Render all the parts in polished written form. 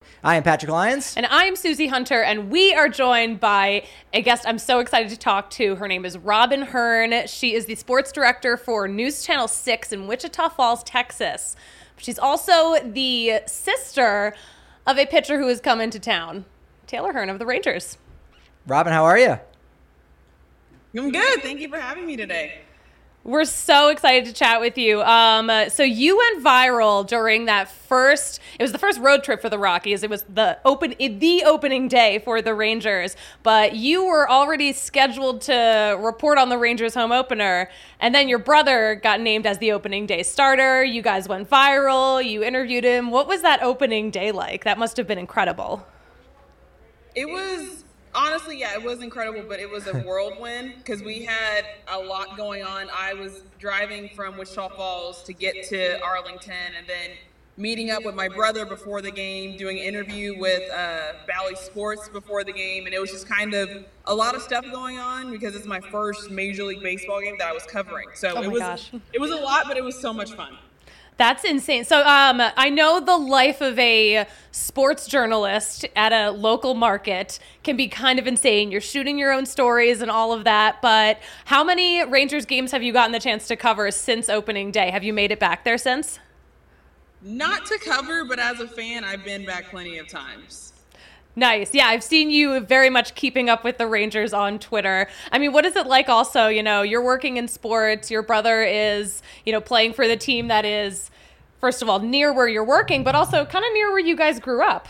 I am Patrick Lyons. And I'm Susie Hunter, and we are joined by a guest I'm so excited to talk to. Her name is Robin Hearn. She is the sports director for News Channel 6 in Wichita Falls, Texas. She's also the sister of a pitcher who has come into town, Taylor Hearn of the Rangers. Robin, how are you? I'm good. Thank you for having me today. We're so excited to chat with you. So you went viral during that it was the first road trip for the Rockies. It was the opening day for the Rangers, but you were already scheduled to report on the Rangers home opener. And then your brother got named as the opening day starter. You guys went viral. You interviewed him. What was that opening day like? That must have been incredible. It was, honestly, yeah, it was incredible, but it was a whirlwind because we had a lot going on. I was driving from Wichita Falls to get to Arlington and then meeting up with my brother before the game, doing an interview with Bally Sports before the game, and it was just kind of a lot of stuff going on because it's my first Major League Baseball game that I was covering. So it was a lot, but it was so much fun. That's insane. So I know the life of a sports journalist at a local market can be kind of insane. You're shooting your own stories and all of that, but how many Rangers games have you gotten the chance to cover since opening day? Have you made it back there since? Not to cover, but as a fan, I've been back plenty of times. Nice. Yeah, I've seen you very much keeping up with the Rangers on Twitter. I mean, what is it like also, you're working in sports, your brother is, playing for the team that is, first of all, near where you're working, but also kind of near where you guys grew up.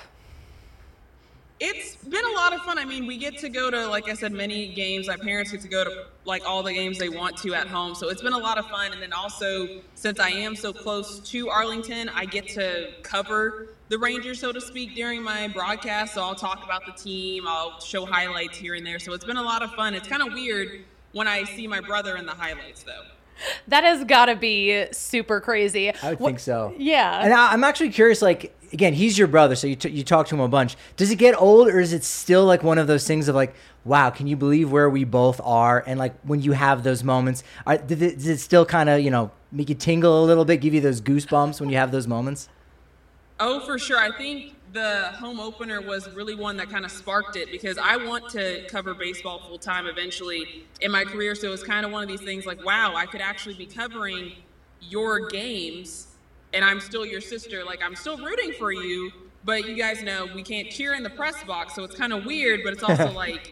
It's been a lot of fun. I mean, we get to go to, like I said, many games. My parents get to go to, all the games they want to at home. So it's been a lot of fun. And then also, since I am so close to Arlington, I get to cover the Rangers, so to speak, during my broadcast. So I'll talk about the team. I'll show highlights here and there. So it's been a lot of fun. It's kind of weird when I see my brother in the highlights, though. That has got to be super crazy. I would think so. Yeah. And I'm actually curious, again, he's your brother, so you talk to him a bunch. Does it get old, or is it still one of those things of wow, can you believe where we both are? And when you have those moments, does it still kind of, make you tingle a little bit, give you those goosebumps when you have those moments? Oh, for sure. I think the home opener was really one that kind of sparked it because I want to cover baseball full time eventually in my career. So it was kind of one of these things wow, I could actually be covering your games and I'm still your sister. I'm still rooting for you, but you guys know we can't cheer in the press box. So it's kind of weird, but it's also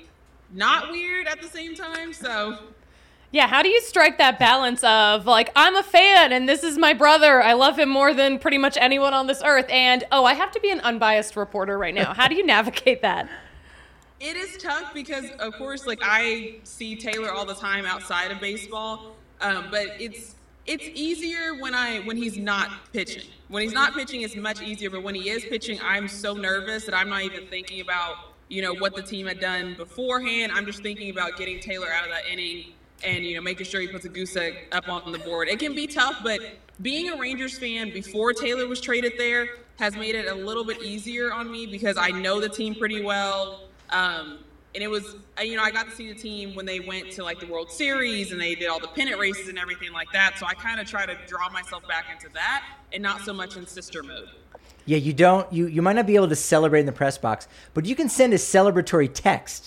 not weird at the same time. So yeah, how do you strike that balance of I'm a fan and this is my brother. I love him more than pretty much anyone on this earth. And, I have to be an unbiased reporter right now. How do you navigate that? It is tough because, of course, I see Taylor all the time outside of baseball. But it's easier when he's not pitching. When he's not pitching, it's much easier. But when he is pitching, I'm so nervous that I'm not even thinking about, what the team had done beforehand. I'm just thinking about getting Taylor out of that inning and, making sure he puts a goose egg up on the board. It can be tough, but being a Rangers fan before Taylor was traded there has made it a little bit easier on me because I know the team pretty well. And it was, I got to see the team when they went to the World Series and they did all the pennant races and everything like that. So I kind of try to draw myself back into that and not so much in sister mode. Yeah, you might not be able to celebrate in the press box, but you can send a celebratory text.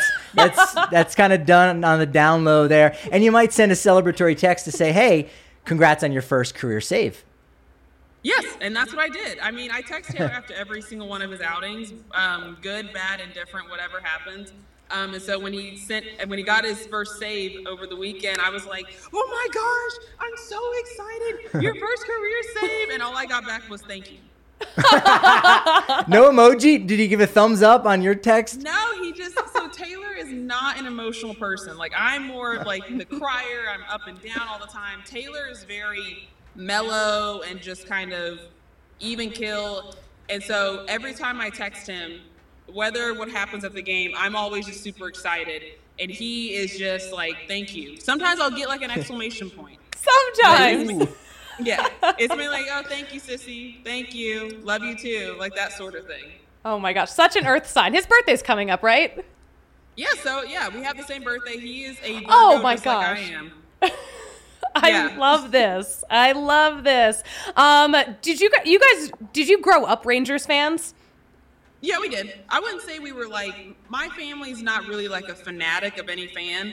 That's kind of done on the down low there. And you might send a celebratory text to say, hey, congrats on your first career save. Yes, and that's what I did. I mean, I text Taylor after every single one of his outings, good, bad, indifferent, whatever happens. And so when he got his first save over the weekend, I was like, oh my gosh, I'm so excited. Your first career save. And all I got back was thank you. No emoji? Did he give a thumbs up on your text? No, so Taylor is not an emotional person. I'm more of the crier. I'm up and down all the time. Taylor is very mellow and just kind of even kill. And so every time I text him, whether what happens at the game, I'm always just super excited. And he is just thank you. Sometimes I'll get an exclamation point. Sometimes. Yeah, it's been oh, thank you, sissy. Thank you. Love you too. That sort of thing. Oh my gosh, such an earth sign. His birthday's coming up, right? Yeah, so we have the same birthday. He is a Virgo, oh my just gosh. like I am. I love this. Did you grow up Rangers fans? Yeah, we did. I wouldn't say we were like, my family's not really like a fanatic of any fan.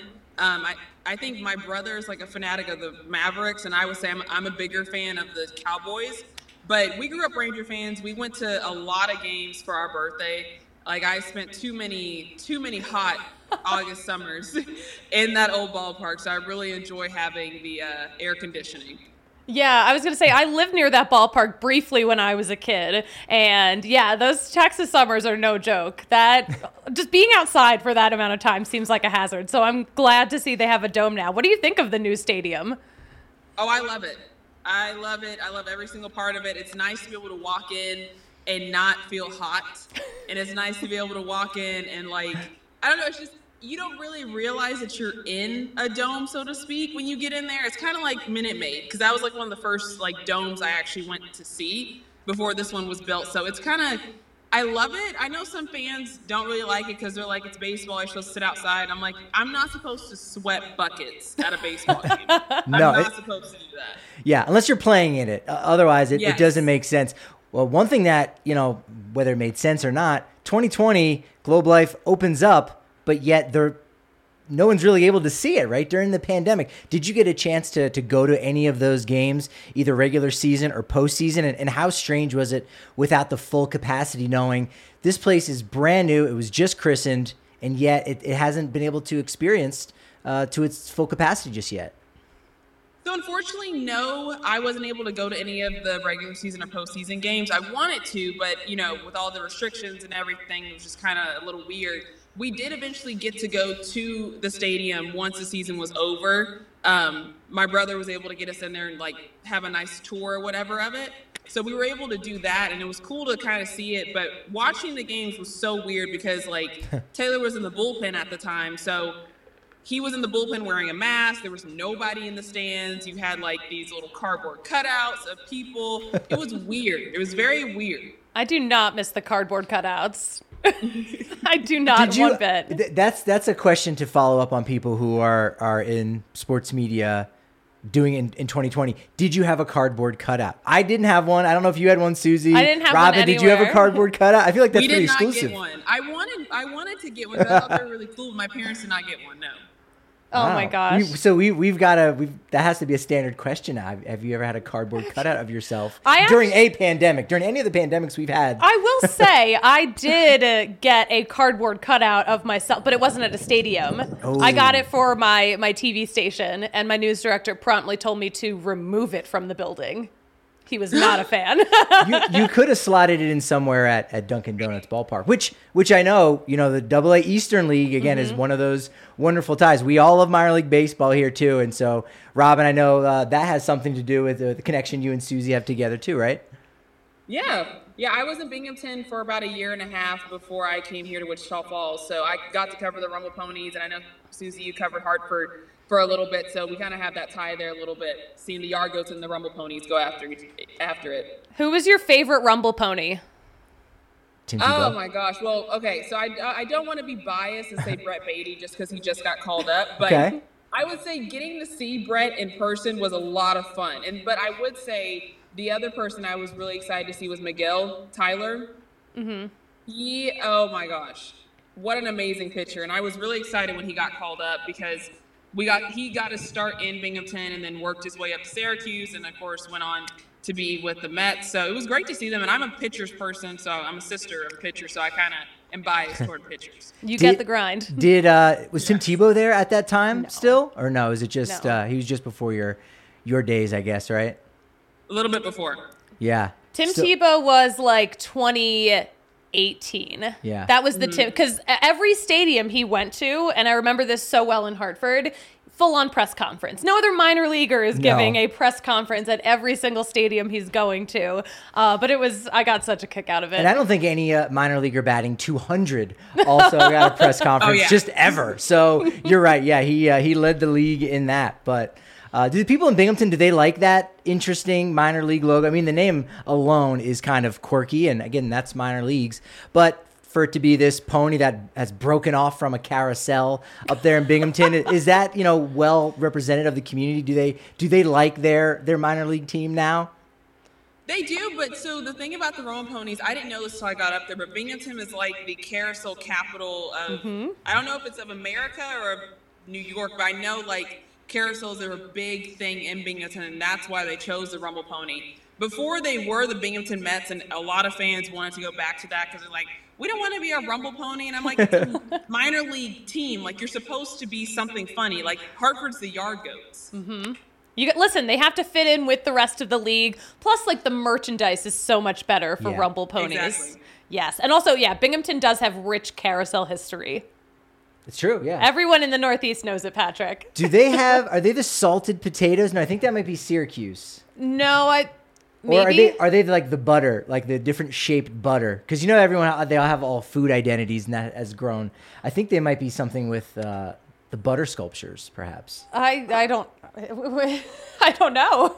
I think my brother is like a fanatic of the Mavericks, and I would say I'm a bigger fan of the Cowboys. But we grew up Ranger fans. We went to a lot of games for our birthday. Like I spent too many hot August summers in that old ballpark, so I really enjoy having the air conditioning. Yeah, I was going to say, I lived near that ballpark briefly when I was a kid. And yeah, those Texas summers are no joke. That just being outside for that amount of time seems like a hazard. So I'm glad to see they have a dome now. What do you think of the new stadium? Oh, I love it. I love it. I love every single part of it. It's nice to be able to walk in and not feel hot. And it's nice to be able to walk in and like, I don't know, it's just, you don't really realize that you're in a dome, so to speak, when you get in there. It's kind of like Minute Maid, because that was like one of the first like domes I actually went to see before this one was built. So it's kind of, I love it. I know some fans don't really like it because they're like, it's baseball, you're supposed to sit outside. I'm like, I'm not supposed to sweat buckets at a baseball game. No, I'm not supposed to do that. Yeah, unless you're playing in it. Otherwise, it Yes. doesn't make sense. Well, one thing that, whether it made sense or not, 2020, Globe Life opens up, but yet no one's really able to see it, right? During the pandemic. Did you get a chance to go to any of those games, either regular season or postseason? And how strange was it without the full capacity, knowing this place is brand new, it was just christened, and yet it hasn't been able to experience to its full capacity just yet? So unfortunately, no, I wasn't able to go to any of the regular season or postseason games. I wanted to, but with all the restrictions and everything, it was just kind of a little weird. We did eventually get to go to the stadium once the season was over. My brother was able to get us in there and like have a nice tour or whatever of it. So we were able to do that, and it was cool to kind of see it. But watching the games was so weird because like Taylor was in the bullpen at the time, so he was in the bullpen wearing a mask. There was nobody in the stands. You had like these little cardboard cutouts of people. It was weird. It was very weird. I do not miss the cardboard cutouts. I do not one bit. That's a question to follow up on people who are in sports media doing in 2020. Did you have a cardboard cutout? I didn't have one. I don't know if you had one, Susie. I didn't have Robin, one did you have a cardboard cutout? I feel like that's pretty exclusive. We did not get one. I wanted to get one because I thought they were really cool. My parents did not get one, no. Oh my gosh. That has to be a standard question now. Have you ever had a cardboard cutout of yourself during a pandemic, during any of the pandemics we've had? I will say I did get a cardboard cutout of myself, but it wasn't at a stadium. Oh. I got it for my TV station, and my news director promptly told me to remove it from the building. He was not a fan. You could have slotted it in somewhere at Dunkin' Donuts ballpark, which I know, the AA Eastern League, again, is one of those wonderful ties. We all love minor league baseball here, too. And so, Robin, I know that has something to do with the connection you and Susie have together, too, right? Yeah. Yeah, I was in Binghamton for about a year and a half before I came here to Wichita Falls. So I got to cover the Rumble Ponies, and I know, Susie, you covered Hartford for a little bit, so we kind of have that tie there a little bit, seeing the Yard Goats and the Rumble Ponies go after it. Who was your favorite Rumble Pony? Tim Tebow. Oh my gosh. Well, okay, so I don't want to be biased and say Brett Beatty just because he just got called up, but okay. I would say getting to see Brett in person was a lot of fun. But I would say the other person I was really excited to see was Miguel Tyler. Mm-hmm. Oh my gosh, what an amazing pitcher! And I was really excited when he got called up because he got to start in Binghamton and then worked his way up to Syracuse, and of course went on to be with the Mets. So it was great to see them. And I'm a pitchers person, so I'm a sister of a pitcher, so I kind of am biased toward pitchers. You get the grind. Was Tim Tebow there at that time still, or no? Is it just he was just before your days, I guess, right? A little bit before. Yeah. Tim Tebow was like 2018. Yeah. That was the Tim, because every stadium he went to, and I remember this so well in Hartford, full-on press conference. No other minor leaguer is giving a press conference at every single stadium he's going to. But I got such a kick out of it. And I don't think any minor leaguer batting 200 also got a press conference just ever. So you're right. Yeah, he led the league in that. But do the people in Binghamton, do they like that interesting minor league logo? I mean, the name alone is kind of quirky, and again, that's minor leagues. But for it to be this pony that has broken off from a carousel up there in Binghamton, is that well represented of the community? Do they like their minor league team now? They do, but so the thing about the Rolling Ponies, I didn't know this until I got up there, but Binghamton is like the carousel capital of, I don't know if it's of America or of New York, but I know like carousels are a big thing in Binghamton, and that's why they chose the Rumble Pony. Before they were the Binghamton Mets, and a lot of fans wanted to go back to that because they're like, we don't want to be a Rumble Pony. And I'm like, it's a minor league team. Like, you're supposed to be something funny. Like, Hartford's the Yard Goats. Listen, they have to fit in with the rest of the league. Plus, like, the merchandise is so much better for Rumble Ponies. Exactly. Yes. And also, Binghamton does have rich carousel history. It's true, yeah. Everyone in the Northeast knows it, Patrick. Are they the salted potatoes? No, I think that might be Syracuse. No, maybe. Or are they like the butter, like the different shaped butter? Because everyone, they all have all food identities, and that has grown. I think they might be something with the butter sculptures, perhaps. I don't know.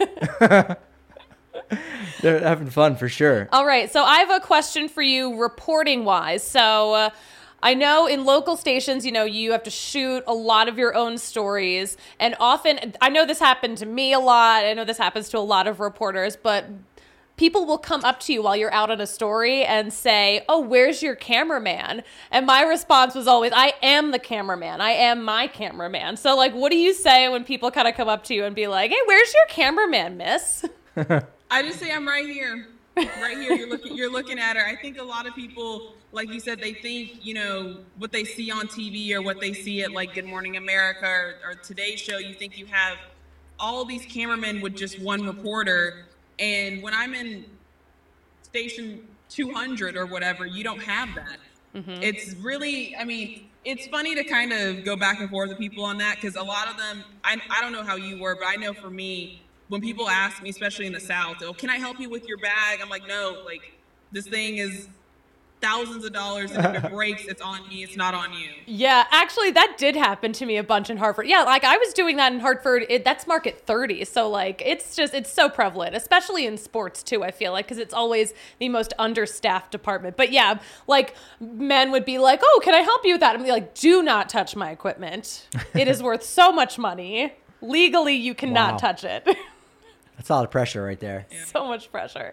They're having fun for sure. All right, so I have a question for you reporting wise. So I know in local stations, you have to shoot a lot of your own stories. And often, I know this happened to me a lot. I know this happens to a lot of reporters, but people will come up to you while you're out on a story and say, oh, where's your cameraman? And my response was always, I am the cameraman. I am my cameraman. So, like, what do you say when people kind of come up to you and be like, hey, where's your cameraman, miss? I just say I'm right here. Right here, you're looking at her. I think a lot of people, like you said, they think, what they see on TV or what they see at like Good Morning America or Today's Show, you think you have all these cameramen with just one reporter. And when I'm in station 200 or whatever, you don't have that. It's really, it's funny to kind of go back and forth with people on that because a lot of them, I don't know how you were, but I know for me, when people ask me, especially in the South, oh, can I help you with your bag? I'm like, no, like this thing is thousands of dollars, and if it breaks, it's on me, it's not on you. Yeah, actually, that did happen to me a bunch in Hartford. Yeah, like I was doing that in Hartford. That's market 30. So like, it's so prevalent, especially in sports too, I feel like, because it's always the most understaffed department. But yeah, like men would be like, oh, can I help you with that? I'm like, do not touch my equipment. It is worth so much money. Legally, you cannot touch it. That's a lot of pressure right there. Yeah. So much pressure.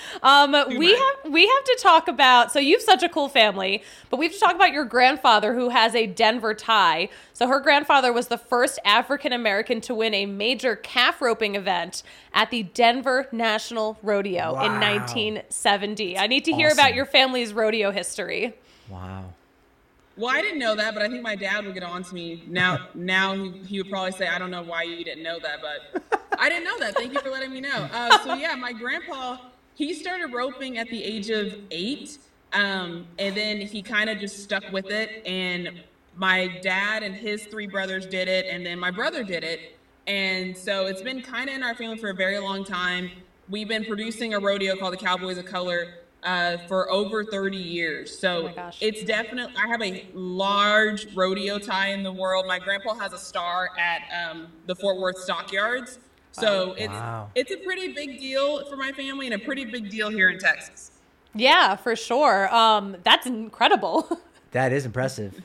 We have to talk about, so you have such a cool family, but we have to talk about your grandfather who has a Denver tie. So her grandfather was the first African-American to win a major calf roping event at the Denver National Rodeo in 1970. I need to hear about your family's rodeo history. Wow. Well, I didn't know that, but I think my dad would get on to me. Now he would probably say, I don't know why you didn't know that, but I didn't know that. Thank you for letting me know. My grandpa, he started roping at the age of 8, and then he kind of just stuck with it. And my dad and his 3 brothers did it, and then my brother did it. And so it's been kind of in our family for a very long time. We've been producing a rodeo called the Cowboys of Color for over 30 years. So it's definitely, I have a large rodeo tie in the world. My grandpa has a star at the Fort Worth Stockyards. So it's a pretty big deal for my family and a pretty big deal here in Texas. Yeah, for sure. That's incredible. That is impressive.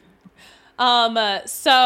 Can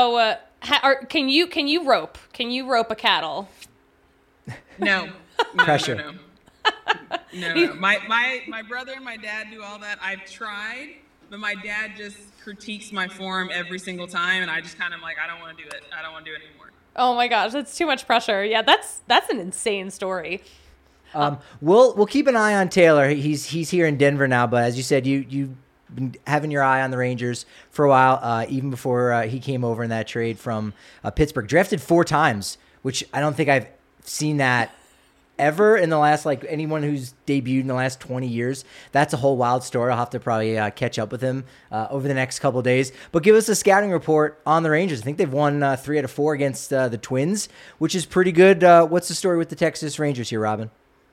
you rope? Can you rope a cattle? No. Pressure. No. My brother and my dad do all that. I've tried, but my dad just critiques my form every single time, and I just kind of like, I don't want to do it. I don't want to do it anymore. Oh my gosh, that's too much pressure. Yeah, that's an insane story. We'll keep an eye on Taylor. He's here in Denver now, but as you said, you've been having your eye on the Rangers for a while, even before he came over in that trade from Pittsburgh. Drafted 4 times, which I don't think I've seen that ever in the last, like, anyone who's debuted in the last 20 years. That's a whole wild story. I'll have to probably catch up with him over the next couple of days. But give us a scouting report on the Rangers. I think they've won 3 out of 4 against the Twins, which is pretty good. What's the story with the Texas Rangers here, Robin?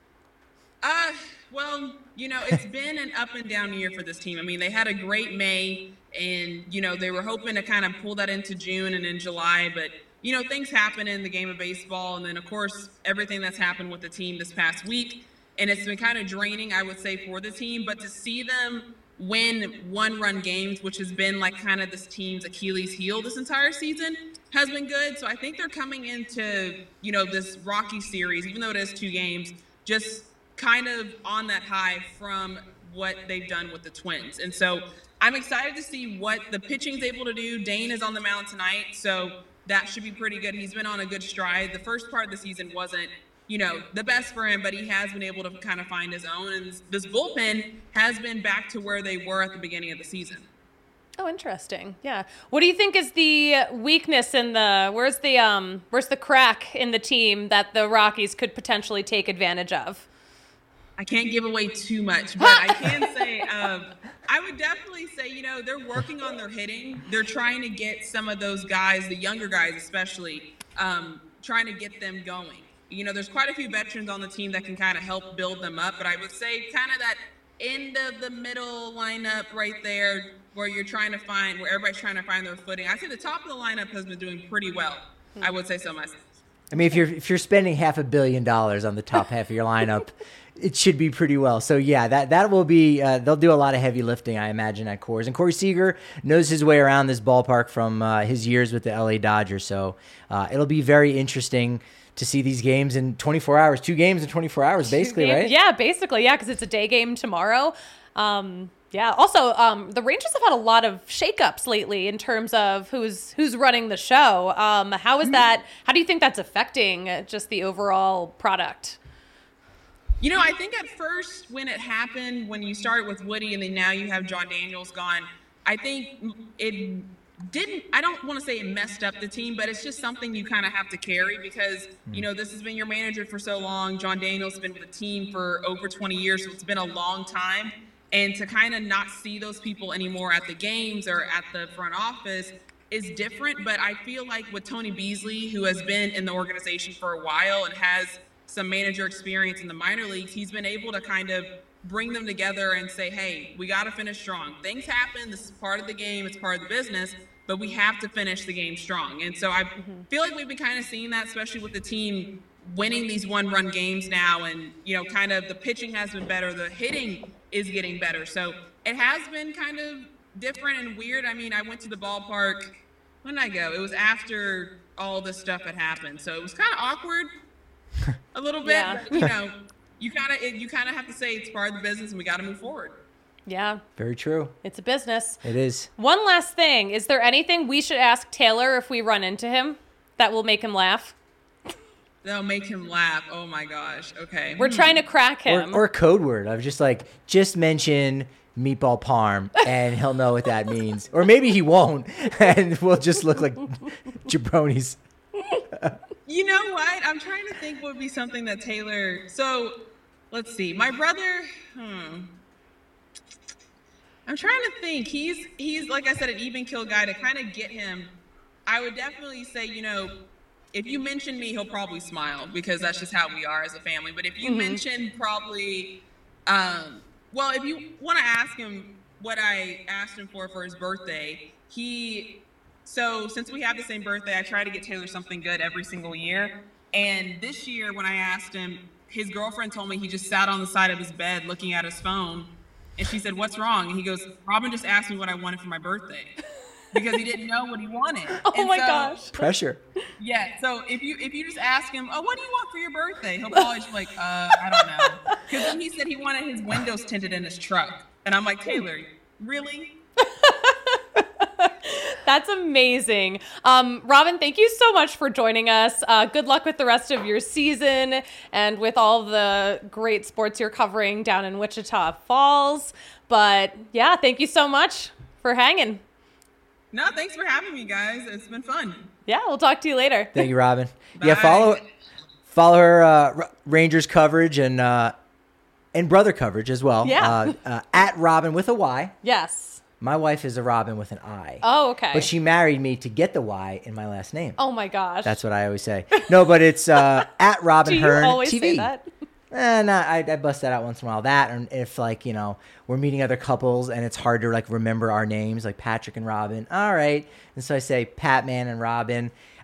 Well, it's been an up and down year for this team. I mean, they had a great May, and, they were hoping to kind of pull that into June and in July, but things happen in the game of baseball. And then, of course, everything that's happened with the team this past week. And it's been kind of draining, I would say, for the team. But to see them win 1-run games, which has been like kind of this team's Achilles heel this entire season, has been good. So I think they're coming into, this Rocky series, even though it is 2 games, just kind of on that high from what they've done with the Twins. And so I'm excited to see what the pitching's able to do. Dane is on the mound tonight, so that should be pretty good. He's been on a good stride. The first part of the season wasn't, the best for him, but he has been able to kind of find his own. And this bullpen has been back to where they were at the beginning of the season. Oh, interesting. Yeah. What do you think is the weakness in where's the crack in the team that the Rockies could potentially take advantage of? I can't give away too much, but I can say, I would definitely say, they're working on their hitting. They're trying to get some of those guys, the younger guys especially, trying to get them going. There's quite a few veterans on the team that can kind of help build them up, but I would say kind of that end of the middle lineup right there where everybody's trying to find their footing. I think the top of the lineup has been doing pretty well. I would say so myself. I mean, if you're spending $500 million on the top half of your lineup, it should be pretty well. So yeah, that will be they'll do a lot of heavy lifting, I imagine, at Coors. And Corey Seager knows his way around this ballpark from his years with the LA Dodgers. So it'll be very interesting to see these games in 24 hours. 2 games in 24 hours, basically, right? Yeah, basically, yeah, because it's a day game tomorrow. Yeah. Also, the Rangers have had a lot of shakeups lately in terms of who's running the show. How is that? How do you think that's affecting just the overall product? I think at first when it happened, when you started with Woody and then now you have Jon Daniels gone, I think it didn't, I don't want to say it messed up the team, but it's just something you kind of have to carry because, this has been your manager for so long. Jon Daniels has been with the team for over 20 years, so it's been a long time. And to kind of not see those people anymore at the games or at the front office is different. But I feel like with Tony Beasley, who has been in the organization for a while and has some manager experience in the minor leagues, he's been able to kind of bring them together and say, hey, we got to finish strong. Things happen. This is part of the game. It's part of the business. But we have to finish the game strong. And so I feel like we've been kind of seeing that, especially with the team winning these one-run games now. And, kind of the pitching has been better. The hitting is getting better. So it has been kind of different and weird. I mean, I went to the ballpark. When did I go? It was after all this stuff had happened. So it was kind of awkward a little bit. Yeah. But, you kind of have to say it's part of the business and we got to move forward. Yeah. Very true. It's a business. It is. One last thing. Is there anything we should ask Taylor if we run into him that will make him laugh? That'll make him laugh. Oh my gosh. Okay. We're trying to crack him. Or a code word. I was just mention meatball parm and he'll know what that means. Or maybe he won't and we'll just look like jabronis. You know what? I'm trying to think what would be something that Taylor... So, let's see. My brother... I'm trying to think. He's like I said, an even kill guy. To kind of get him, I would definitely say, if you mention me, he'll probably smile because that's just how we are as a family. But if you mention probably... if you want to ask him what I asked him for his birthday, So since we have the same birthday, I try to get Taylor something good every single year. And this year when I asked him, his girlfriend told me he just sat on the side of his bed looking at his phone. And she said, "What's wrong?" And he goes, "Robin just asked me what I wanted for my birthday." Because he didn't know what he wanted. Oh my gosh. Pressure. Yeah. So if you just ask him, "Oh, what do you want for your birthday?" He'll probably just be like, I don't know. Because then he said he wanted his windows tinted in his truck. And I'm like, Taylor, really? That's amazing. Robin, thank you so much for joining us. Good luck with the rest of your season and with all the great sports you're covering down in Wichita Falls. But yeah, thank you so much for hanging. No, thanks for having me, guys. It's been fun. Yeah, we'll talk to you later. Thank you, Robin. Bye. Yeah, follow her Rangers coverage and brother coverage as well. Yeah. At Robin with a Y. Yes. My wife is a Robin with an I. Oh, okay. But she married me to get the Y in my last name. Oh my gosh. That's what I always say. No, but it's at Robin Hearn Do you always TV. say that? I bust that out once in a while. That, and if we're meeting other couples and it's hard to remember our names, like Patrick and Robin. All right. And so I say Pat Man and Robin.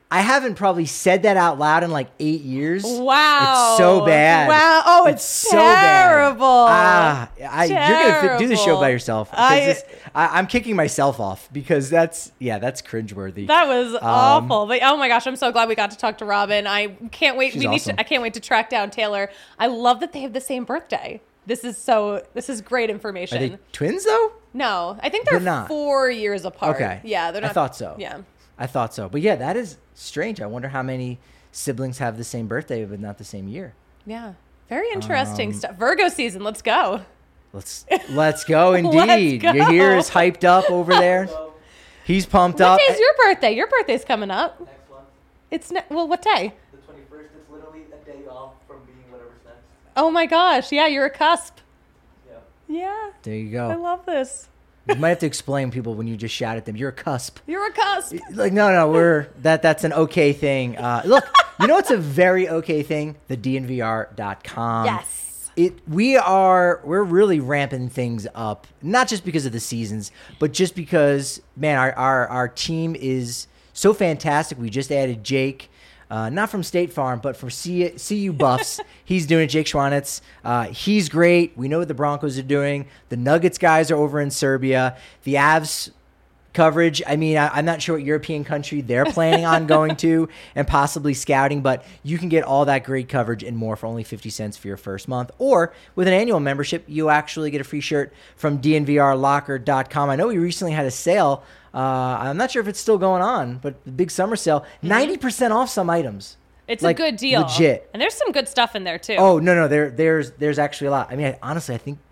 I haven't probably said that out loud in like 8 years. Wow. It's so bad. Wow. Oh, it's so terrible. bad. You're going to do the show by yourself. I'm kicking myself off because that's cringeworthy. That was awful. But oh my gosh, I'm so glad we got to talk to Robin. I can't wait. She's awesome. I can't wait to track down Taylor. I love that they have the same birthday. This is great information. Are they twins though? No, I think they're not. 4 years apart. Okay. Yeah, they're not. I thought so. Yeah. I thought so. But yeah, that is strange. I wonder how many siblings have the same birthday but not the same year. Yeah. Very interesting stuff. Virgo season. Let's go. Let's go indeed. Let's go. Yahir is hyped up over there. He's pumped up. What day is your birthday? Your birthday's coming up. Next one. It's what day? The 21st. It's literally a day off from being whatever's next. Oh my gosh. Yeah, you're a cusp. Yeah. Yeah. There you I go. love this. You might have to explain people when you just shout at them. You're a cusp. You're a cusp. Like no, that's an okay thing. Look, you know what's a very okay thing? The DNVR.com. Yes. We're really ramping things up, not just because of the seasons, but just because, man, our team is so fantastic. We just added Jake, not from State Farm, but from CU Buffs. He's doing it, Jake Schwanitz. He's great. We know what the Broncos are doing. The Nuggets guys are over in Serbia. The Avs coverage, I mean, I'm not sure what European country they're planning on going to and possibly scouting, but you can get all that great coverage and more for only 50 cents for your first month. Or with an annual membership, you actually get a free shirt from DNVRlocker.com. I know we recently had a sale. I'm not sure if it's still going on, but the big summer sale, 90% off some items. It's like, a good deal. Legit. And there's some good stuff in there too. Oh, no, there's actually a lot. I mean, honestly, I think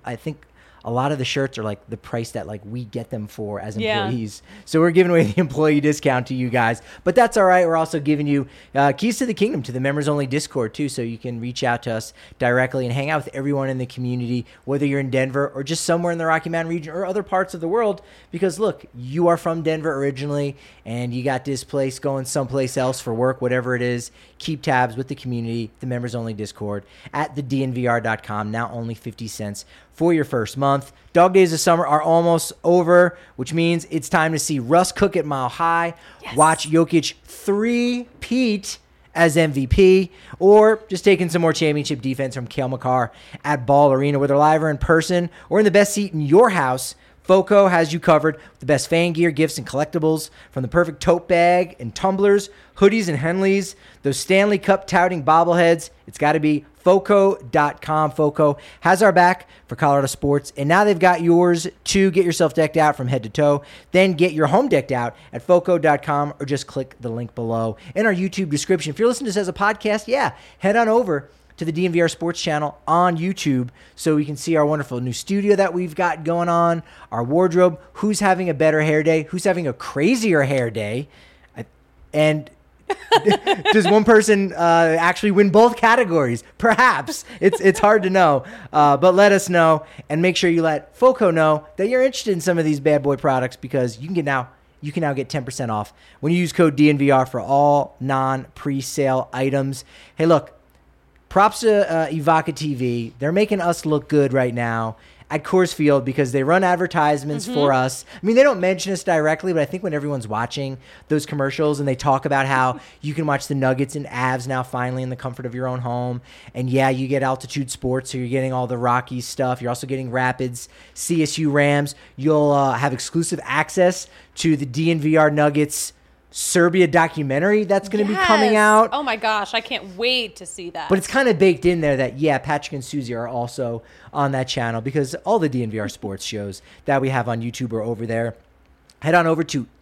a lot of the shirts are like the price that like we get them for as employees. Yeah. So we're giving away the employee discount to you guys, but that's all right. We're also giving you keys to the kingdom, to the members only Discord too. So you can reach out to us directly and hang out with everyone in the community, whether you're in Denver or just somewhere in the Rocky Mountain region or other parts of the world, because look, you are from Denver originally and you got displaced going someplace else for work, whatever it is. Keep tabs with the community, the members only Discord at thednvr.com. Now only 50 cents for your first month. Dog days of summer are almost over, which means it's time to see Russ cook at Mile High, watch Jokic three-peat as MVP, or just taking some more championship defense from Cale Makar at Ball Arena, whether live or in person or in the best seat in your house. FOCO has you covered with the best fan gear, gifts, and collectibles, from the perfect tote bag and tumblers, hoodies and Henleys, those Stanley Cup touting bobbleheads. It's got to be FOCO.com. FOCO has our back for Colorado sports, and now they've got yours too. Get yourself decked out from head to toe. Then get your home decked out at FOCO.com, or just click the link below in our YouTube description. If you're listening to this as a podcast, head on over to the DNVR Sports channel on YouTube so we can see our wonderful new studio that we've got going on, our wardrobe, who's having a better hair day, who's having a crazier hair day, and does one person actually win both categories? Perhaps. It's hard to know, but let us know, and make sure you let FOCO know that you're interested in some of these bad boy products, because you can now get 10% off when you use code DNVR for all non-presale items. Hey, look, props to Evoca TV. They're making us look good right now at Coors Field because they run advertisements for us. I mean, they don't mention us directly, but I think when everyone's watching those commercials and they talk about how you can watch the Nuggets and Avs now finally in the comfort of your own home. And you get Altitude Sports, so you're getting all the Rockies stuff. You're also getting Rapids, CSU Rams. You'll have exclusive access to the DNVR Nuggets Serbia documentary that's going to be coming out. Oh my gosh, I can't wait to see that. But it's kind of baked in there that, Patrick and Susie are also on that channel, because all the DNVR sports shows that we have on YouTube are over there. Head on over to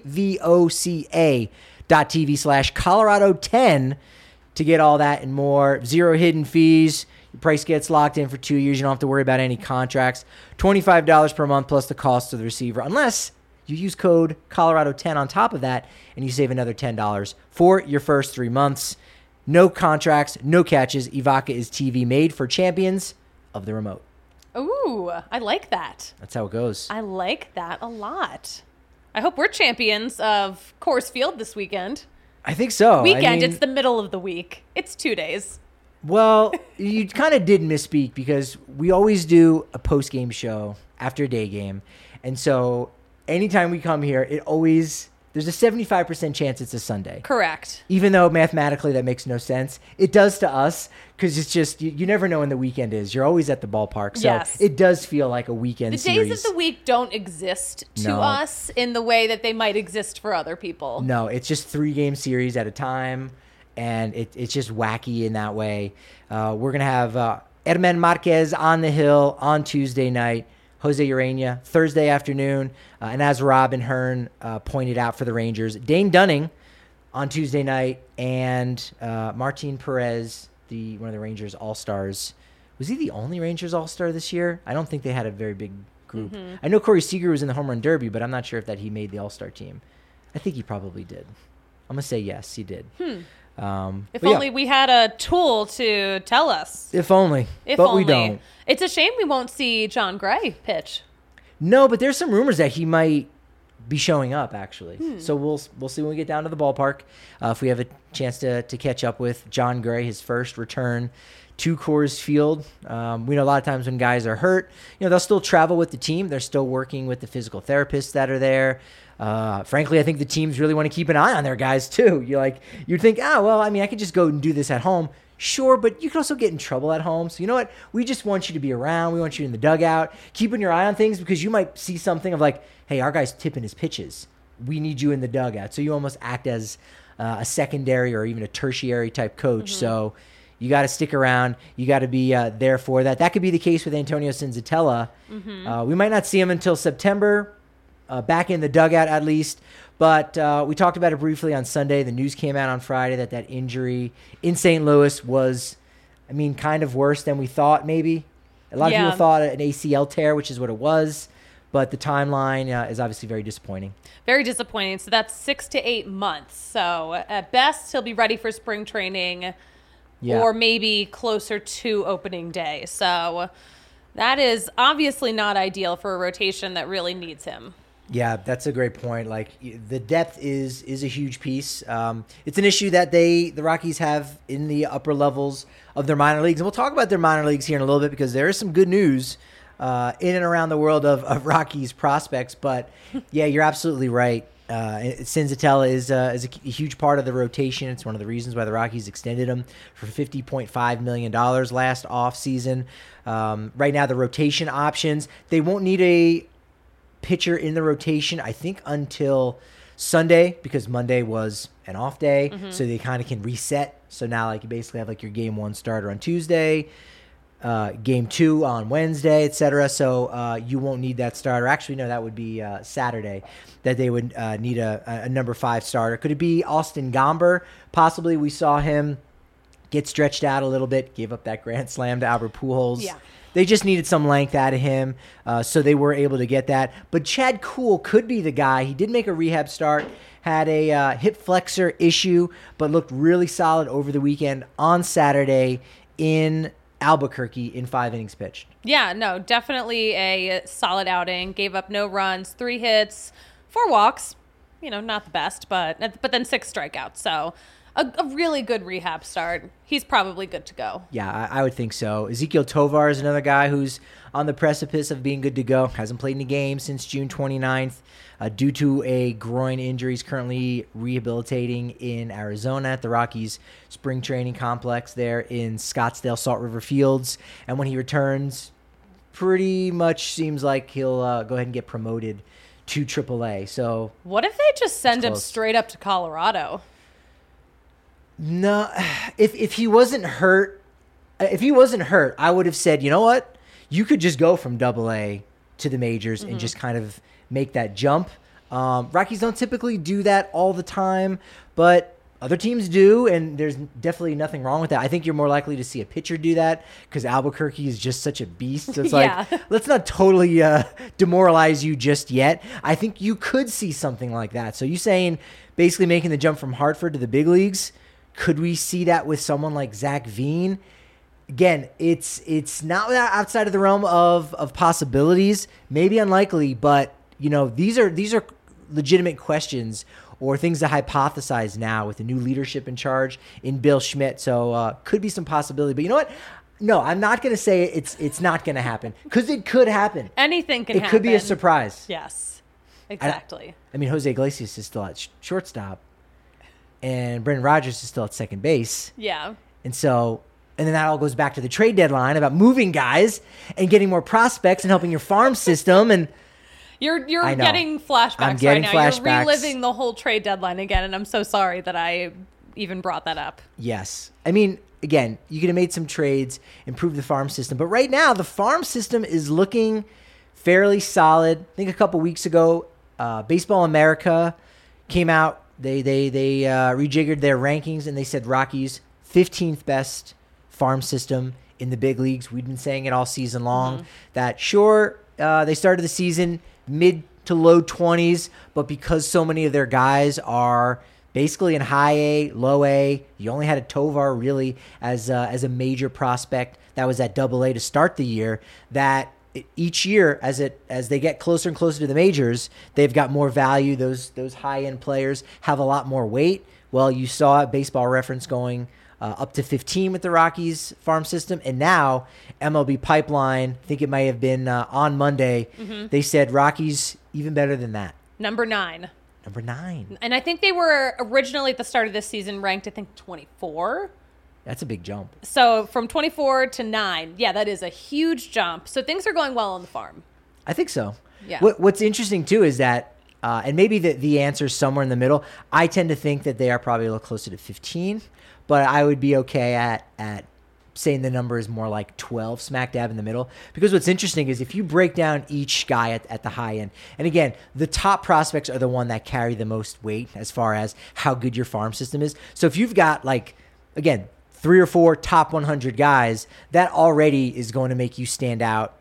evoca.tv/Colorado10 to get all that and more. 0 hidden fees. Your price gets locked in for 2 years. You don't have to worry about any contracts. $25 per month plus the cost to the receiver, unless you use code Colorado10 on top of that, and you save another $10 for your first 3 months. No contracts, no catches. Evoca is TV made for champions of the remote. Ooh, I like that. That's how it goes. I like that a lot. I hope we're champions of Coors Field this weekend. I think so. It's the middle of the week. It's 2 days. Well, you kind of did misspeak, because we always do a post-game show after a day game. And so anytime we come here, it always there's a 75% chance it's a Sunday. Correct. Even though mathematically that makes no sense. It does to us because it's just, you never know when the weekend is. You're always at the ballpark. So Yes. it does feel like a weekend The series. days of the week don't exist to No. us in the way that they might exist for other people. No, it's just 3-game series at a time, and it's just wacky in that way. We're going to have Herman Marquez on the hill on Tuesday night, Jose Urena Thursday afternoon, and as Robin Hearn pointed out for the Rangers, Dane Dunning on Tuesday night, and Martin Perez, one of the Rangers All-Stars. Was he the only Rangers All-Star this year? I don't think they had a very big group. I know Corey Seager was in the Home Run Derby, but I'm not sure if he made the All-Star team. I think he probably did. I'm going to say yes, he did. If only we had a tool to tell us. If only. If but only. we don't. It's a shame we won't see John Gray pitch. No, but there's some rumors that he might be showing up, actually. So we'll see when we get down to the ballpark. If we have a chance to catch up with John Gray, his first return to Coors Field. We know a lot of times when guys are hurt, they'll still travel with the team. They're still working with the physical therapists that are there. Frankly, I think the teams really want to keep an eye on their guys too. You'd think, I could just go and do this at home. Sure, but you can also get in trouble at home. So you know what? We just want you to be around. We want you in the dugout, keeping your eye on things because you might see something of like, hey, our guy's tipping his pitches. We need you in the dugout. So you almost act as a secondary or even a tertiary type coach. So you got to stick around. You got to be there for that. That could be the case with Antonio Senzatella. We might not see him until September, back in the dugout at least. But we talked about it briefly on Sunday. The news came out on Friday that injury in St. Louis was, kind of worse than we thought maybe. A lot of people thought an ACL tear, which is what it was. But the timeline is obviously very disappointing. Very disappointing. So that's 6 to 8 months. So at best, he'll be ready for spring training or maybe closer to opening day. So that is obviously not ideal for a rotation that really needs him. Yeah, that's a great point. Like the depth is a huge piece. It's an issue that the Rockies have in the upper levels of their minor leagues. And we'll talk about their minor leagues here in a little bit because there is some good news in and around the world of Rockies prospects. But yeah, you're absolutely right. Senzatella is a huge part of the rotation. It's one of the reasons why the Rockies extended him for $50.5 million last offseason. Right now, the rotation options, they won't need a pitcher in the rotation, I think, until Sunday because Monday was an off day. So they kind of can reset. So now you basically have your game 1 starter on Tuesday, game 2 on Wednesday, etc. So you won't need that starter. Actually, no, that would be Saturday that they would need a number 5 starter. Could it be Austin Gomber? Possibly. We saw him get stretched out a little bit, gave up that grand slam to Albert Pujols. Yeah. They just needed some length out of him, so they were able to get that. But Chad Kuhl could be the guy. He did make a rehab start, had a hip flexor issue, but looked really solid over the weekend on Saturday in Albuquerque in 5 innings pitched. Yeah, no, definitely a solid outing. Gave up no runs, 3 hits, 4 walks. Not the best, but then 6 strikeouts. So a really good rehab start. He's probably good to go. Yeah, I would think so. Ezequiel Tovar is another guy who's on the precipice of being good to go. Hasn't played in a game since June 29th due to a groin injury. He's currently rehabilitating in Arizona at the Rockies spring training complex there in Scottsdale Salt River Fields. And when he returns, pretty much seems like he'll go ahead and get promoted to AAA. So what if they just send him straight up to Colorado? No, if he wasn't hurt, I would have said, you know what? You could just go from AA to the majors and just kind of make that jump. Rockies don't typically do that all the time, but other teams do, and there's definitely nothing wrong with that. I think you're more likely to see a pitcher do that because Albuquerque is just such a beast. So it's let's not totally demoralize you just yet. I think you could see something like that. So you saying basically making the jump from Hartford to the big leagues? Could we see that with someone like Zach Veen? Again, it's not outside of the realm of possibilities. Maybe unlikely, but these are legitimate questions or things to hypothesize now with the new leadership in charge in Bill Schmidt. So could be some possibility. But you know what? No, I'm not going to say it's not going to happen because it could happen. Anything can happen. It could be a surprise. Yes. exactly. I mean, Jose Iglesias is still at shortstop, and Brendan Rodgers is still at second base. Yeah. And so, and then that all goes back to the trade deadline about moving guys and getting more prospects and helping your farm system. And You're I know. getting flashbacks I'm getting right now. flashbacks. You're reliving the whole trade deadline again, and I'm so sorry that I even brought that up. yes, I mean, again, you could have made some trades, improved the farm system. But right now, the farm system is looking fairly solid. I think a couple weeks ago, Baseball America came out. They rejiggered their rankings, and they said Rockies 15th best farm system in the big leagues. We've been saying it all season long. That sure, they started the season mid to low 20s, but because so many of their guys are basically in high A, low A, you only had a Tovar really as a major prospect that was at Double A to start the year. That each year, as they get closer and closer to the majors, they've got more value. Those high end players have a lot more weight. Well, you saw Baseball Reference going up to 15 with the Rockies farm system, and now MLB Pipeline, I think it might have been on Monday, they said Rockies even better than that. Number 9. Number 9. And I think they were originally at the start of this season ranked, I think, 24. That's a big jump. So from 24 to 9, yeah, that is a huge jump. So things are going well on the farm. I think so. Yeah. What's interesting too is that, and maybe the answer is somewhere in the middle. I tend to think that they are probably a little closer to 15, but I would be okay at saying the number is more like 12, smack dab in the middle. Because what's interesting is if you break down each guy at the high end, and again, the top prospects are the one that carry the most weight as far as how good your farm system is. So if you've got, like, again, 3 or 4 top 100 guys, that already is going to make you stand out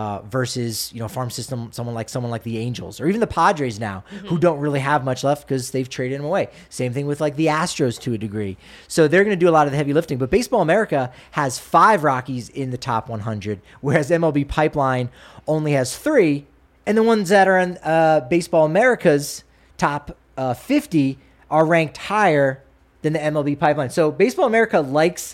versus, farm system, someone like the Angels or even the Padres now, who don't really have much left because they've traded him away. Same thing with like the Astros to a degree. So they're going to do a lot of the heavy lifting. But Baseball America has 5 Rockies in the top 100, whereas MLB Pipeline only has 3. And the ones that are in Baseball America's top 50 are ranked higher than the MLB Pipeline. So Baseball America likes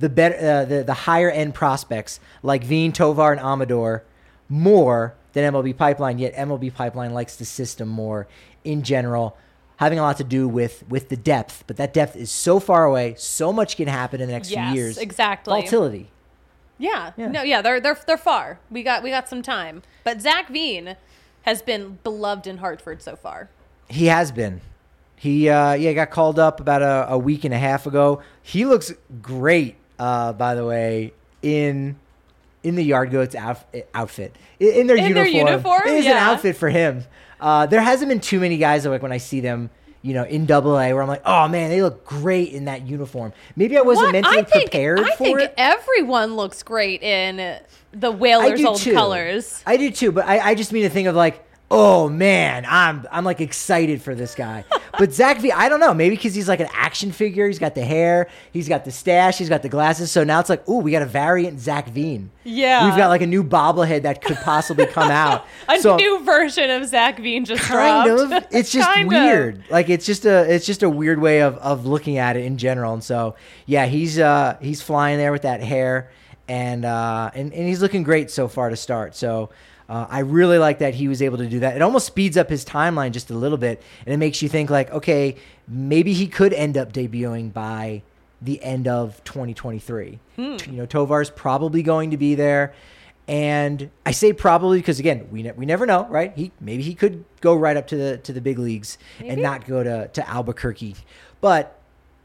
the higher end prospects like Veen, Tovar, and Amador more than MLB Pipeline, yet MLB Pipeline likes the system more in general, having a lot to do with the depth. But that depth is so far away, so much can happen in the next few years. Exactly. Volatility. Yeah. They're far. We got some time. But Zach Veen has been beloved in Hartford so far. He has been. He got called up about a week and a half ago. He looks great, by the way, in the Yard Goats outfit. In their uniform. It is an outfit for him. There hasn't been too many guys, like when I see them, in Double A, where I'm like, oh man, they look great in that uniform. Maybe I wasn't mentally prepared for it. I think everyone looks great in the Whalers' old colors. I do too, but I just mean the thing of like, oh man, I'm like excited for this guy. But Zach V, I don't know, maybe because he's like an action figure. He's got the hair, he's got the stash, he's got the glasses. So now it's like, ooh, we got a variant Zach Veen. Yeah, we've got like a new bobblehead that could possibly come out. a new version of Zach Veen just kind dropped. of. It's just weird. Like it's just a weird way of looking at it in general. And so yeah, he's flying there with that hair, and he's looking great so far to start. So. I really like that he was able to do that. It almost speeds up his timeline just a little bit, and it makes you think like, okay, maybe he could end up debuting by the end of 2023. Tovar's probably going to be there, and I say probably because again, we never know, right? Maybe he could go right up to the big leagues and not go to Albuquerque, but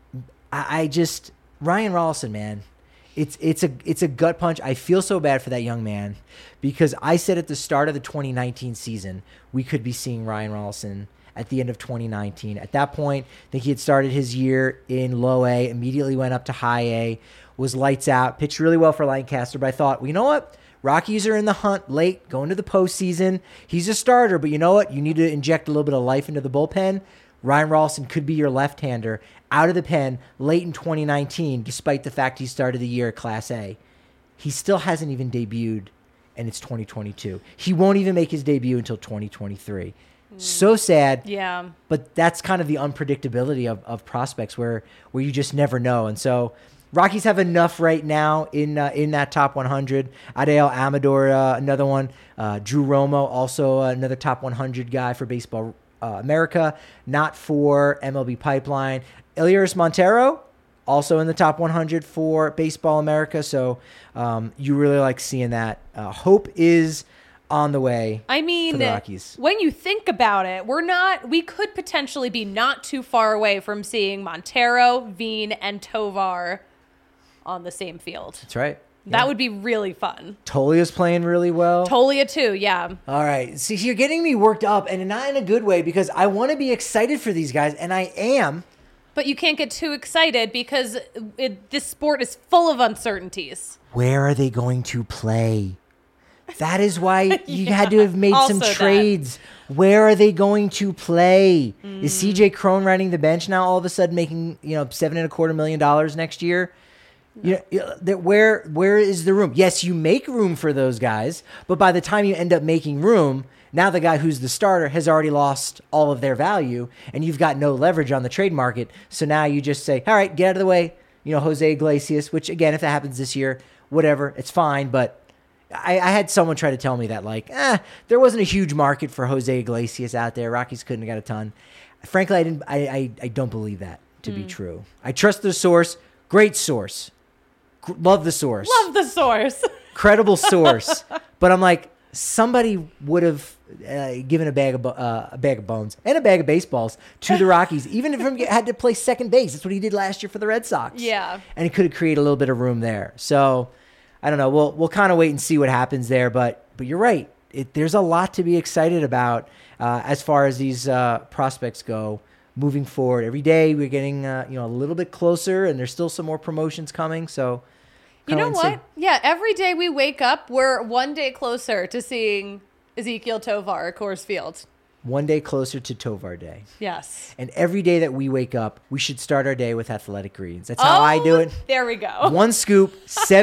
I just Ryan Rolison, man. It's a gut punch. I feel so bad for that young man because I said at the start of the 2019 season we could be seeing Ryan Rolison at the end of 2019. At that point, I think he had started his year in low A, immediately went up to high A, was lights out, pitched really well for Lancaster. But I thought, well, you know what? Rockies are in the hunt late, going to the postseason. He's a starter, but you know what? You need to inject a little bit of life into the bullpen. Ryan Rolison could be your left-hander out of the pen late in 2019, despite the fact he started the year at Class A. He still hasn't even debuted, and it's 2022. He won't even make his debut until 2023. So sad. Yeah. But that's kind of the unpredictability of prospects where you just never know. And so Rockies have enough right now in that top 100. Adael Amador, another one. Drew Romo, also another top 100 guy for Baseball America, not for MLB Pipeline. Elias Montero, also in the top 100 for Baseball America. So you really like seeing that. Hope is on the way. I mean, for the Rockies. When you think about it, we could potentially be not too far away from seeing Montero, Veen, and Tovar on the same field. That's right. That would be really fun. Tolia's playing really well. Tolia too, yeah. All right. See, you're getting me worked up, and not in a good way, because I want to be excited for these guys, and I am. But you can't get too excited because this sport is full of uncertainties. Where are they going to play? That is why you had to have made some also trades. Where are they going to play? Is CJ Cron riding the bench now all of a sudden making, $7.25 million next year? Where is the room? Yes, you make room for those guys, but by the time you end up making room, now the guy who's the starter has already lost all of their value, and you've got no leverage on the trade market. So now you just say, all right, get out of the way. Jose Iglesias, which again, if that happens this year, whatever, it's fine. But I had someone try to tell me that there wasn't a huge market for Jose Iglesias out there. Rockies couldn't have got a ton. Frankly, I don't believe that to be true. I trust the source. Great source. Love the source. Love the source. Credible source. But I'm like, somebody would have given a bag of bones and a bag of baseballs to the Rockies, even if he had to play second base. That's what he did last year for the Red Sox. Yeah. And he could have created a little bit of room there. So I don't know. We'll kind of wait and see what happens there. But you're right. There's a lot to be excited about as far as these prospects go moving forward. Every day we're getting a little bit closer, and there's still some more promotions coming. So you know what? Yeah, every day we wake up, we're one day closer to seeing Ezequiel Tovar at Coors Field. One day closer to Tovar Day. Yes. And every day that we wake up, we should start our day with Athletic Greens. That's how I do it. There we go. One scoop,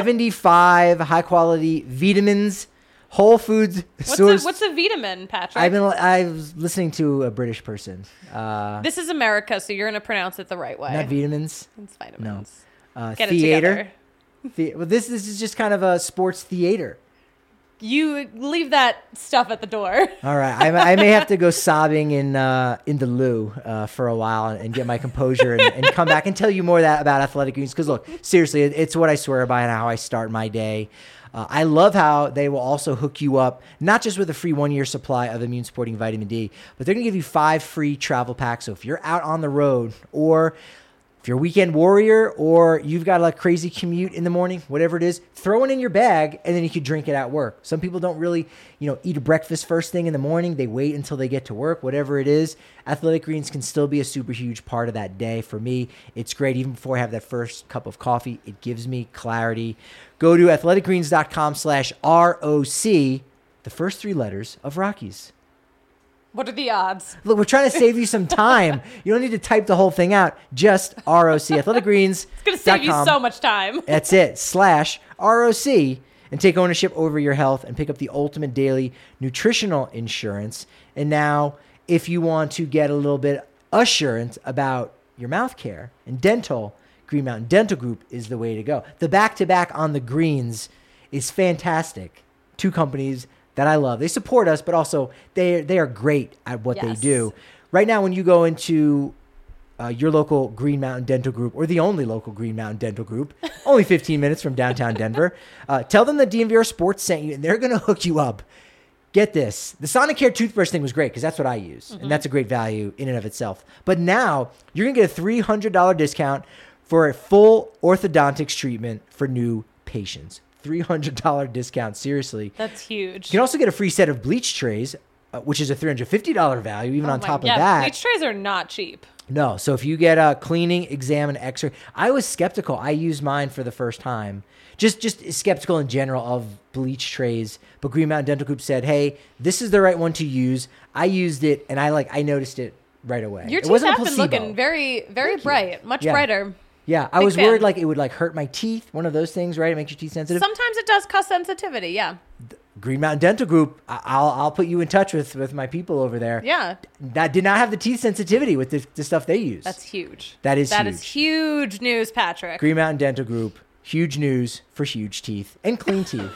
75 high-quality vitamins, whole foods source. What's a vitamin, Patrick? I was listening to a British person. This is America, so you're going to pronounce it the right way. Not vitamins. It's vitamins. No. Get theater. it together. Well, this is just kind of a sports theater. You leave that stuff at the door. All right. I may have to go sobbing in the loo for a while and get my composure and come back and tell you more about Athletic Greens. Because, look, seriously, it's what I swear by and how I start my day. I love how they will also hook you up, not just with a free 1-year supply of immune supporting vitamin D, but they're going to give you 5 free travel packs. So if you're out on the road, or if you're a weekend warrior, or you've got a crazy commute in the morning, whatever it is, throw it in your bag, and then you can drink it at work. Some people don't really, eat a breakfast first thing in the morning. They wait until they get to work, whatever it is. Athletic Greens can still be a super huge part of that day. For me, it's great. Even before I have that first cup of coffee, it gives me clarity. Go to athleticgreens.com/ROC, the first 3 letters of Rockies. What are the odds? Look, we're trying to save you some time. You don't need to type the whole thing out. Just ROC. Athletic Greens. It's going to save you so much time. That's it. /ROC. And take ownership over your health and pick up the ultimate daily nutritional insurance. And now, if you want to get a little bit assurance about your mouth care and dental, Green Mountain Dental Group is the way to go. The back-to-back on the greens is fantastic. 2 companies that I love. They support us, but also they are great at what they do. Right now, when you go into your local Green Mountain Dental Group, or the only local Green Mountain Dental Group, only 15 minutes from downtown Denver, tell them that DNVR Sports sent you, and they're going to hook you up. Get this. The Sonicare toothbrush thing was great because that's what I use, and that's a great value in and of itself. But now, you're going to get a $300 discount for a full orthodontics treatment for new patients. $300 discount. Seriously. That's huge. You can also get a free set of bleach trays, which is a $350 value, even on top of that. Bleach trays are not cheap. No. So if you get a cleaning, exam, and x-ray, I was skeptical. I used mine for the first time. Just skeptical in general of bleach trays. But Green Mountain Dental Group said, hey, this is the right one to use. I used it, and I noticed it right away. Your it teeth wasn't have a been placebo. looking very, very bright. Much brighter. Yeah, I was worried it would hurt my teeth. One of those things, right? It makes your teeth sensitive. Sometimes it does cause sensitivity, yeah. Green Mountain Dental Group, I'll put you in touch with my people over there. Yeah. That did not have the teeth sensitivity with the stuff they use. That's huge. That is huge news, Patrick. Green Mountain Dental Group, huge news for huge teeth and clean teeth.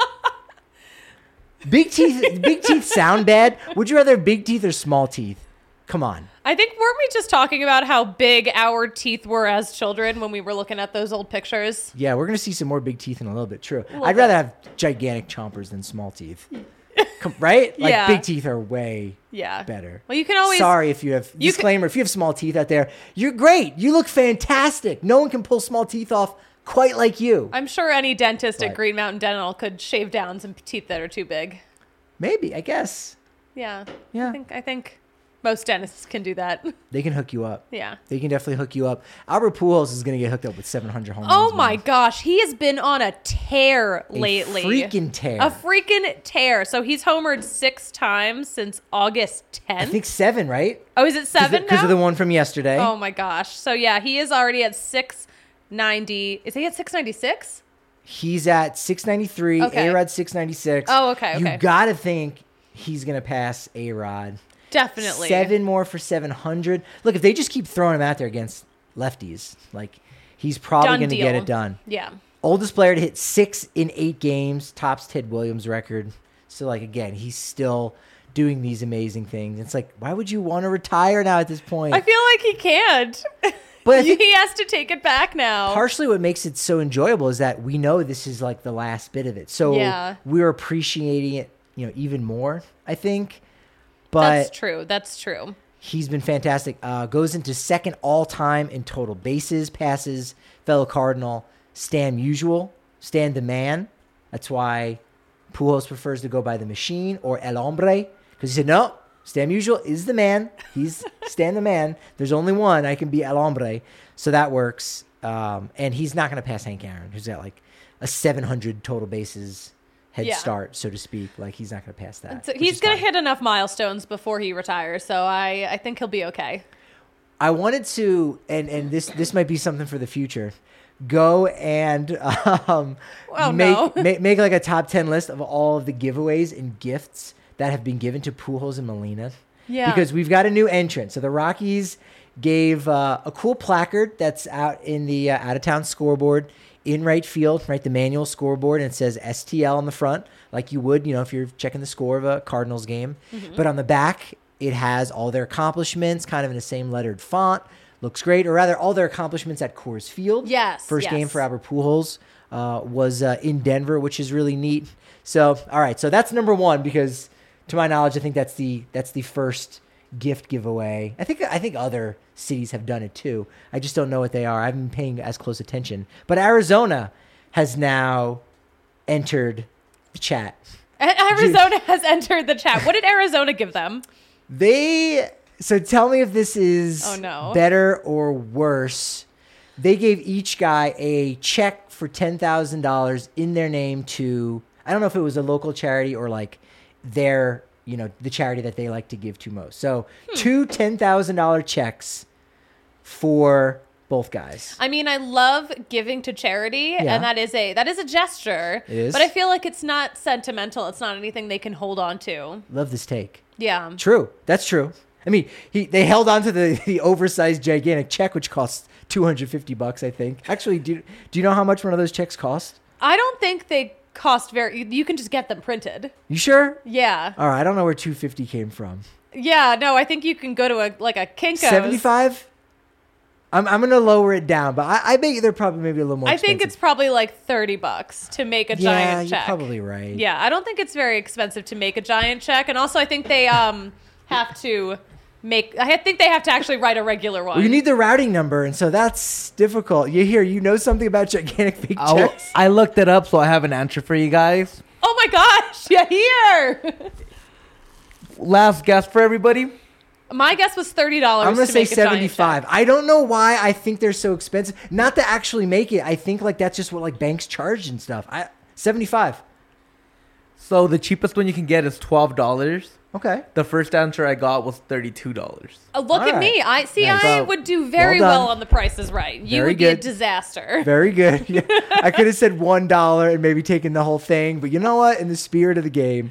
Big teeth sound bad. Would you rather have big teeth or small teeth? Come on. I think, weren't we just talking about how big our teeth were as children when we were looking at those old pictures? Yeah, we're going to see some more big teeth in a little bit. True. Little I'd bit. rather have gigantic chompers than small teeth. Right? Like Yeah. big teeth are way Yeah. better. Well, you can always... Sorry if you have... Disclaimer, if you have small teeth out there, you're great. You look fantastic. No one can pull small teeth off quite like you. I'm sure any dentist at But- Green Mountain Dental could shave down some teeth that are too big. Maybe, I guess. Yeah. Yeah. I think most dentists can do that. They can hook you up. Yeah. They can definitely hook you up. Albert Pujols is going to get hooked up with 700 home runs. Oh my man. gosh, he has been on a tear lately. Freaking tear. A freaking tear. So he's homered 6 times since August 10th. I think 7, right? Oh, is it 7 now? Because of the one from yesterday. Oh my gosh. So yeah, he is already at 690. Is he at 696? He's at 693. Okay. A-Rod 696. Oh, okay. You got to think he's going to pass A-Rod. Definitely. 7 more for 700. Look, if they just keep throwing him out there against lefties, like he's probably Done going to get deal. it done. Yeah. Oldest player to hit 6 in 8 games, tops Ted Williams' record. So, like, again, he's still doing these amazing things. It's like, why would you want to retire now at this point? I feel like he can't. But I think he has to take it back now. partially what makes it so enjoyable is that we know this is like the last bit of it. So Yeah. we're appreciating it, even more, I think. But That's true. That's true. he's been fantastic. Goes into second all-time in total bases, passes, fellow Cardinal, Stan Musial, Stan the Man. That's why Pujols prefers to go by the Machine or El Hombre, because he said, no, Stan Musial is the man. He's Stan the Man. There's only one. I can be El Hombre. So that works. And he's not going to pass Hank Aaron, who's got like a 700 total bases head Yeah. start, so to speak. Like, he's not going to pass that. So which he's is going to fine. hit enough milestones before he retires. So I think he'll be okay. I wanted to, and this might be something for the future. Go and make like a top 10 list of all of the giveaways and gifts that have been given to Pujols and Molina. Yeah. Because we've got a new entrant. So the Rockies gave a cool placard that's out in the out-of-town scoreboard in right field, right? The manual scoreboard, and it says STL on the front, like you would, if you're checking the score of a Cardinals game. Mm-hmm. But on the back, it has all their accomplishments, kind of in the same lettered font. Looks great, or rather, all their accomplishments at Coors Field. Yes, First game yes. for Albert Pujols was in Denver, which is really neat. So, all right, so that's number one because, to my knowledge, I think that's the first gift giveaway. I think other cities have done it too. I just don't know what they are. I haven't been paying as close attention. But Arizona has now entered the chat. Arizona has entered the chat. What did Arizona give them? So tell me if this is Oh, no. better or worse. They gave each guy a check for $10,000 in their name to, I don't know if it was a local charity or like their, the charity that they like to give to most. So 2 $10,000 checks for both guys. I mean, I love giving to charity, Yeah. and that is a gesture. It is. But I feel like it's not sentimental. It's not anything they can hold on to. Love this take. Yeah. True. That's true. I mean, they held on to the oversized gigantic check, which costs $250, I think. Actually, do you know how much one of those checks cost? I don't think they cost you can just get them printed. You sure? Yeah. All right. I don't know where $250 came from. Yeah, no, I think you can go to a Kinko's. 75. I'm gonna lower it down, but I bet they're probably maybe a little more. I think it's expensive. probably like $30 to make a Yeah, giant you're check. probably right. Yeah, I don't think it's very expensive to make a giant check, and also I think they have to actually write a regular one. Well, you need the routing number, and so that's difficult. You know something about gigantic big checks? I looked it up, so I have an answer for you guys. Oh my gosh! Yeah, here. Last guess for everybody. My guess was $30. I'm gonna to say make a giant 75. check. I don't know why I think they're so expensive. Not to actually make it. I think like that's just what like banks charge and stuff. 75. So the cheapest one you can get is $12. Okay. The first answer I got was $32. Look All at right. me. I see. Nice. I would do very Well well, done. on The Price is Right. You Very would be a good. disaster. Very good. Yeah. I could have said $1 and maybe taken the whole thing, but you know what? In the spirit of the game,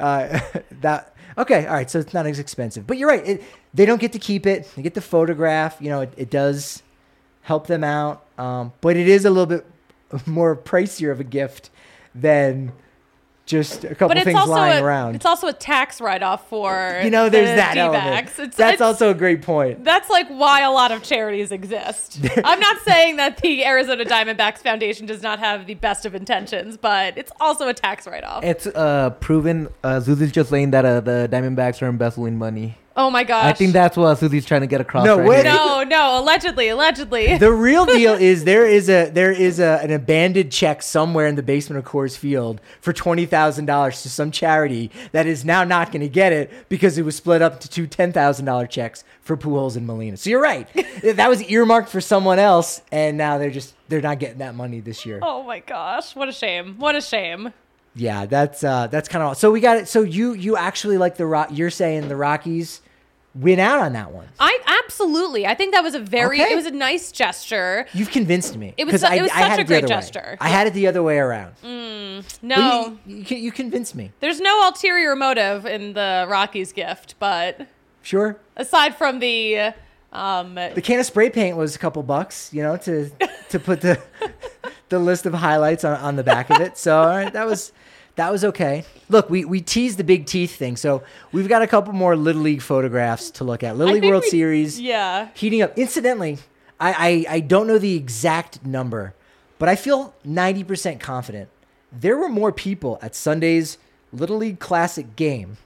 that okay. All right, so it's not as expensive, but you're right. They don't get to keep it. They get the photograph. You know, it does help them out, but it is a little bit more pricier of a gift than just a couple But it's things also lying around. it's also a tax write-off for You know, there's the that D-backs. element. That's also a great point. That's like why a lot of charities exist. I'm not saying that the Arizona Diamondbacks Foundation does not have the best of intentions, but it's also a tax write-off. It's proven. Susie's just saying that the Diamondbacks are embezzling money. Oh my gosh. I think that's what Susie's trying to get across. No, right wait. here. No, allegedly. The real deal is there is an abandoned check somewhere in the basement of Coors Field for $20,000 to some charity that is now not going to get it because it was split up into two $10,000 checks for Pujols and Molina. So you're right, that was earmarked for someone else, and now they're not getting that money this year. Oh my gosh. What a shame. What a shame. Yeah, that's kind of so we got it. So you actually like you're saying the Rockies win out on that one. I absolutely. I think that was Okay. it was a nice gesture. You've convinced me. It was 'Cause I such had a it the great other way. gesture. I had it the other way around. No. But you convinced me. There's no ulterior motive in the Rockies gift, but Sure. aside from the The can of spray paint was a couple bucks, you know, to put the list of highlights on the back of it. So all right, that was okay. Look, we teased the big teeth thing, so we've got a couple more Little League photographs to look at. Little League think World Series yeah. heating up. Incidentally, I don't know the exact number, but I feel 90% confident there were more people at Sunday's Little League Classic game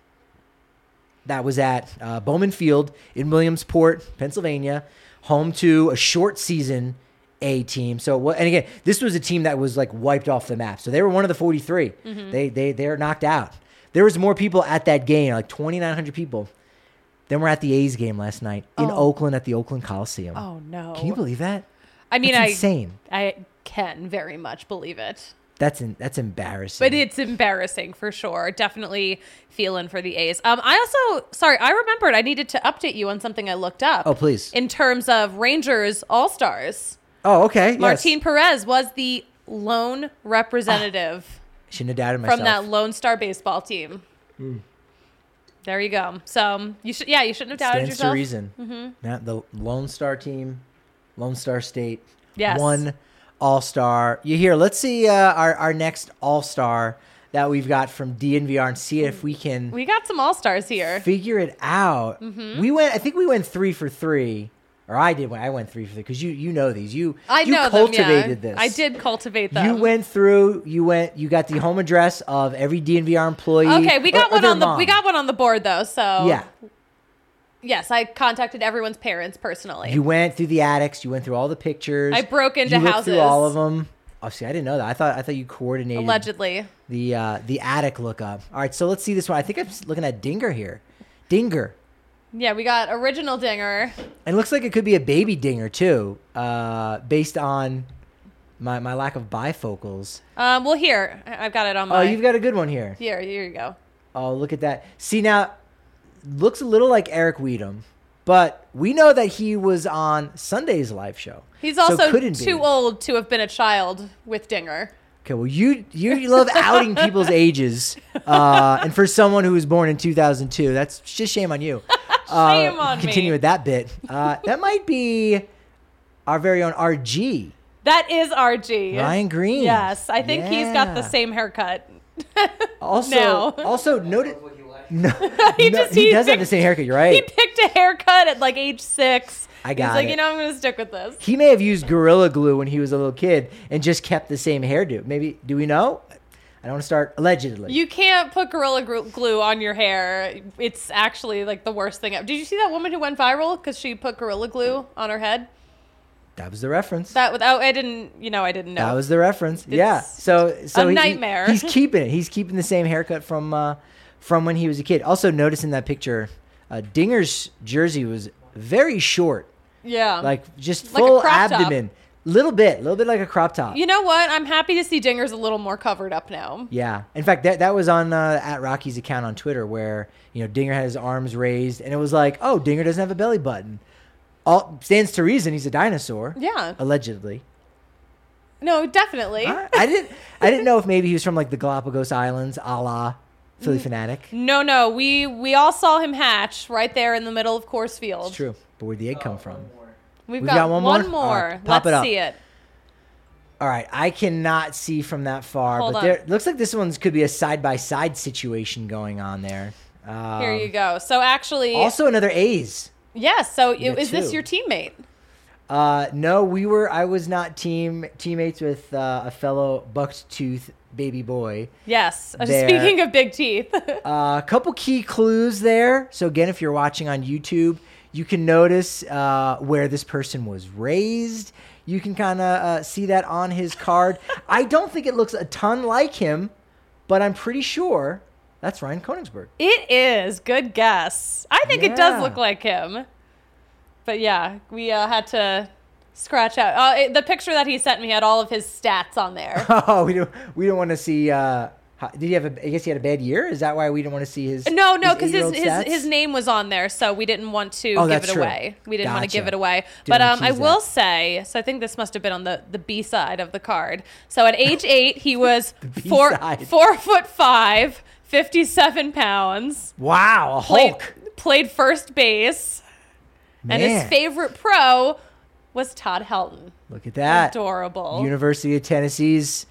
that was at Bowman Field in Williamsport, Pennsylvania, home to a short season A team. So, and again, this was a team that was like wiped off the map. So they were one of the 43. They're knocked out. There was more people at that game, like 2,900 people, than were at the A's game last night in Oakland at the Oakland Coliseum. Oh no. Can you believe that? I mean, That's insane. I can very much believe it. That's embarrassing. But it's embarrassing for sure. Definitely feeling for the A's. I remembered I needed to update you on something I looked up. Oh, please. In terms of Rangers All-Stars. Oh, okay. Martin Yes. Perez was the lone representative Shouldn't have doubted myself. from that Lone Star baseball team. There you go. So you shouldn't have doubted Stands yourself. to reason. Not the Lone Star team, Lone Star State. Yes. One All-Star. You hear? Let's see our next All-Star that we've got from DNVR and see if we can We got some All-Stars here. figure it out. I think we went 3 for 3. Or I did. I went 3 for 3 because you know these. You know cultivated them, yeah. this. I did cultivate them. You went through. You got the home address of every DNVR employee. Okay, we got or one their on the mom. we got one on the board though. So Yeah. yes, I contacted everyone's parents personally. You went through the attics. You went through all the pictures. I broke into you looked houses. through all of them. Oh, see, I didn't know that. I thought you coordinated Allegedly. the attic lookup. All right, so let's see this one. I think I'm looking at Dinger here. Dinger. Yeah, we got original Dinger. And it looks like it could be a baby Dinger too, based on my lack of bifocals. Well, here I've got it on Oh, my. you've got a good one here. Here you go. Oh, look at that. See, now, looks a little like Eric Weedham, but we know that he was on Sunday's live show. He's So also couldn't be. too old to have been a child with Dinger. Okay, well, you love outing people's ages, and for someone who was born in 2002, that's just shame on you. Shame on me. Continue with that bit. That might be our very own RG, That is RG. Ryan Green. Yes, I think he's got the Yeah. same haircut. Also, now. also noted. No, He no, just- he he does have picked- the same haircut. You're He right. picked a haircut at like age 6. I got He's like, it. I'm going to stick with this. He may have used Gorilla Glue when he was a little kid and just kept the same hairdo. Maybe, do we know? I don't want to start allegedly. You can't put Gorilla Glue on your hair. It's actually like the worst thing ever. Did you see that woman who went viral because she put Gorilla Glue on her head? That was the reference. I didn't know. That was the reference. Yeah. So a nightmare. He's keeping it. He's keeping the same haircut from when he was a kid. Also, notice in that picture, Dinger's jersey was very short, Yeah. like just Like a full crop top. abdomen. little bit like a crop top. You know what? I'm happy to see Dinger's a little more covered up now. Yeah. In fact, that was on at Rocky's account on Twitter where, Dinger had his arms raised and it was like, oh, Dinger doesn't have a belly button. All stands to reason he's a dinosaur. Yeah. Allegedly. No, definitely. I didn't know if maybe he was from like the Galapagos Islands, a la Philly Fanatic. No. We all saw him hatch right there in the middle of Coors Field. It's true. But where'd the egg come from? We've got got one one more? more. All right, pop it Let's up. see it. All right, I cannot see from that far, Hold but on. there looks like this one's could be a side-by-side situation going on there. Here you go. So actually, Also another A's. yes. So You got is this two. your teammate? No, I was not teammates with a fellow bucked tooth baby boy. Yes. There. Speaking of big teeth. A couple key clues there. So again, if you're watching on YouTube, you can notice where this person was raised. You can kind of see that on his card. I don't think it looks a ton like him, but I'm pretty sure that's Ryan Koenigsberg. It is. Good guess. I think it does Yeah. look like him. But yeah, we had to scratch out. The picture that he sent me had all of his stats on there. Oh, we don't want to see. Did he have I guess he had a bad year. Is that why we didn't want to see his? No, because eight-year-old his stats? name was on there, so we didn't want to Oh, give that's it true. away. We didn't want to give Gotcha. it away. Didn't But wanna I tease will that. say, so I think this must have been on the B side of the card. So at age 8, he was B-side. 4'5", 57 pounds. Wow, a Hulk. Played first base, and his Man. favorite pro was Todd Helton. Look at that. Adorable. University of Tennessee's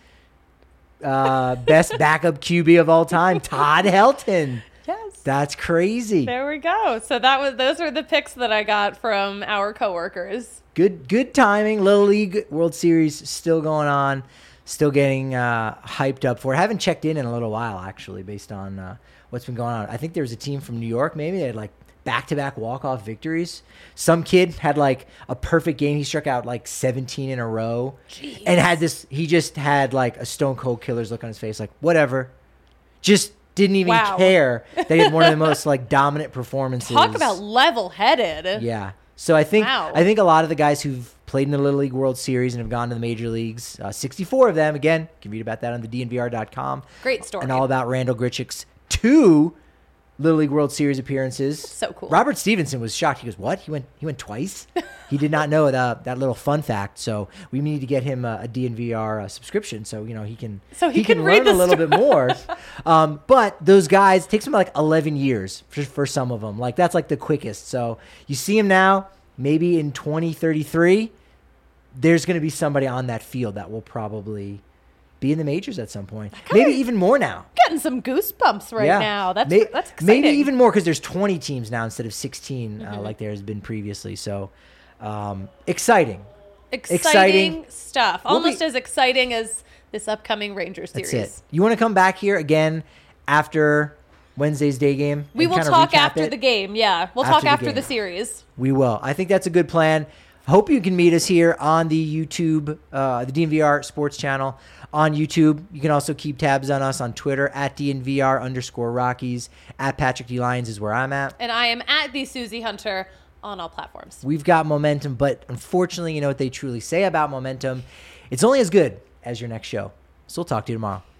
best backup QB of all time, Todd Helton. Yes. That's crazy. There we go. So those are the picks that I got from our coworkers. Good timing. Little League World Series still going on. Still getting hyped up for it. Haven't checked in a little while, actually, based on what's been going on. I think there was a team from New York, maybe. They had like back-to-back walk-off victories. Some kid had like a perfect game. He struck out like 17 in a row. Jeez. And he just had like a stone cold killer's look on his face. Like, whatever. Just didn't even Wow. care. They had one of the most like dominant performances. Talk about level-headed. Yeah. So I think Wow. a lot of the guys who've played in the Little League World Series and have gone to the major leagues, 64 of them, again, you can read about that on the DNVR.com. Great story. And all about Randall Grichuk's 2 Little League World Series appearances. So cool. Robert Stevenson was shocked. He goes, "What? He went twice?" He did not know that little fun fact. So we need to get him a DNVR subscription so he can he can read learn the a little bit more. But those guys, it takes them like 11 years for some of them. Like that's like the quickest. So you see him now. Maybe in 2033, there's going to be somebody on that field that will probably be in the majors at some point. Maybe even more now. Getting some goosebumps right now. That's exciting. Maybe even more because there's 20 teams now instead of 16 like there has been previously. So exciting. Exciting stuff. We'll Almost be- as exciting as this upcoming Rangers series. That's it. You want to come back here again after Wednesday's day game? We and will kinda talk recap after it? the game. Yeah, we'll After talk the after game. the series. We will. I think that's a good plan. Hope you can meet us here on the YouTube, the DNVR Sports Channel on YouTube. You can also keep tabs on us on Twitter at DNVR_Rockies. At Patrick D. Lyons is where I'm at. And I am at the Susie Hunter on all platforms. We've got momentum, but unfortunately, you know what they truly say about momentum. It's only as good as your next show. So we'll talk to you tomorrow.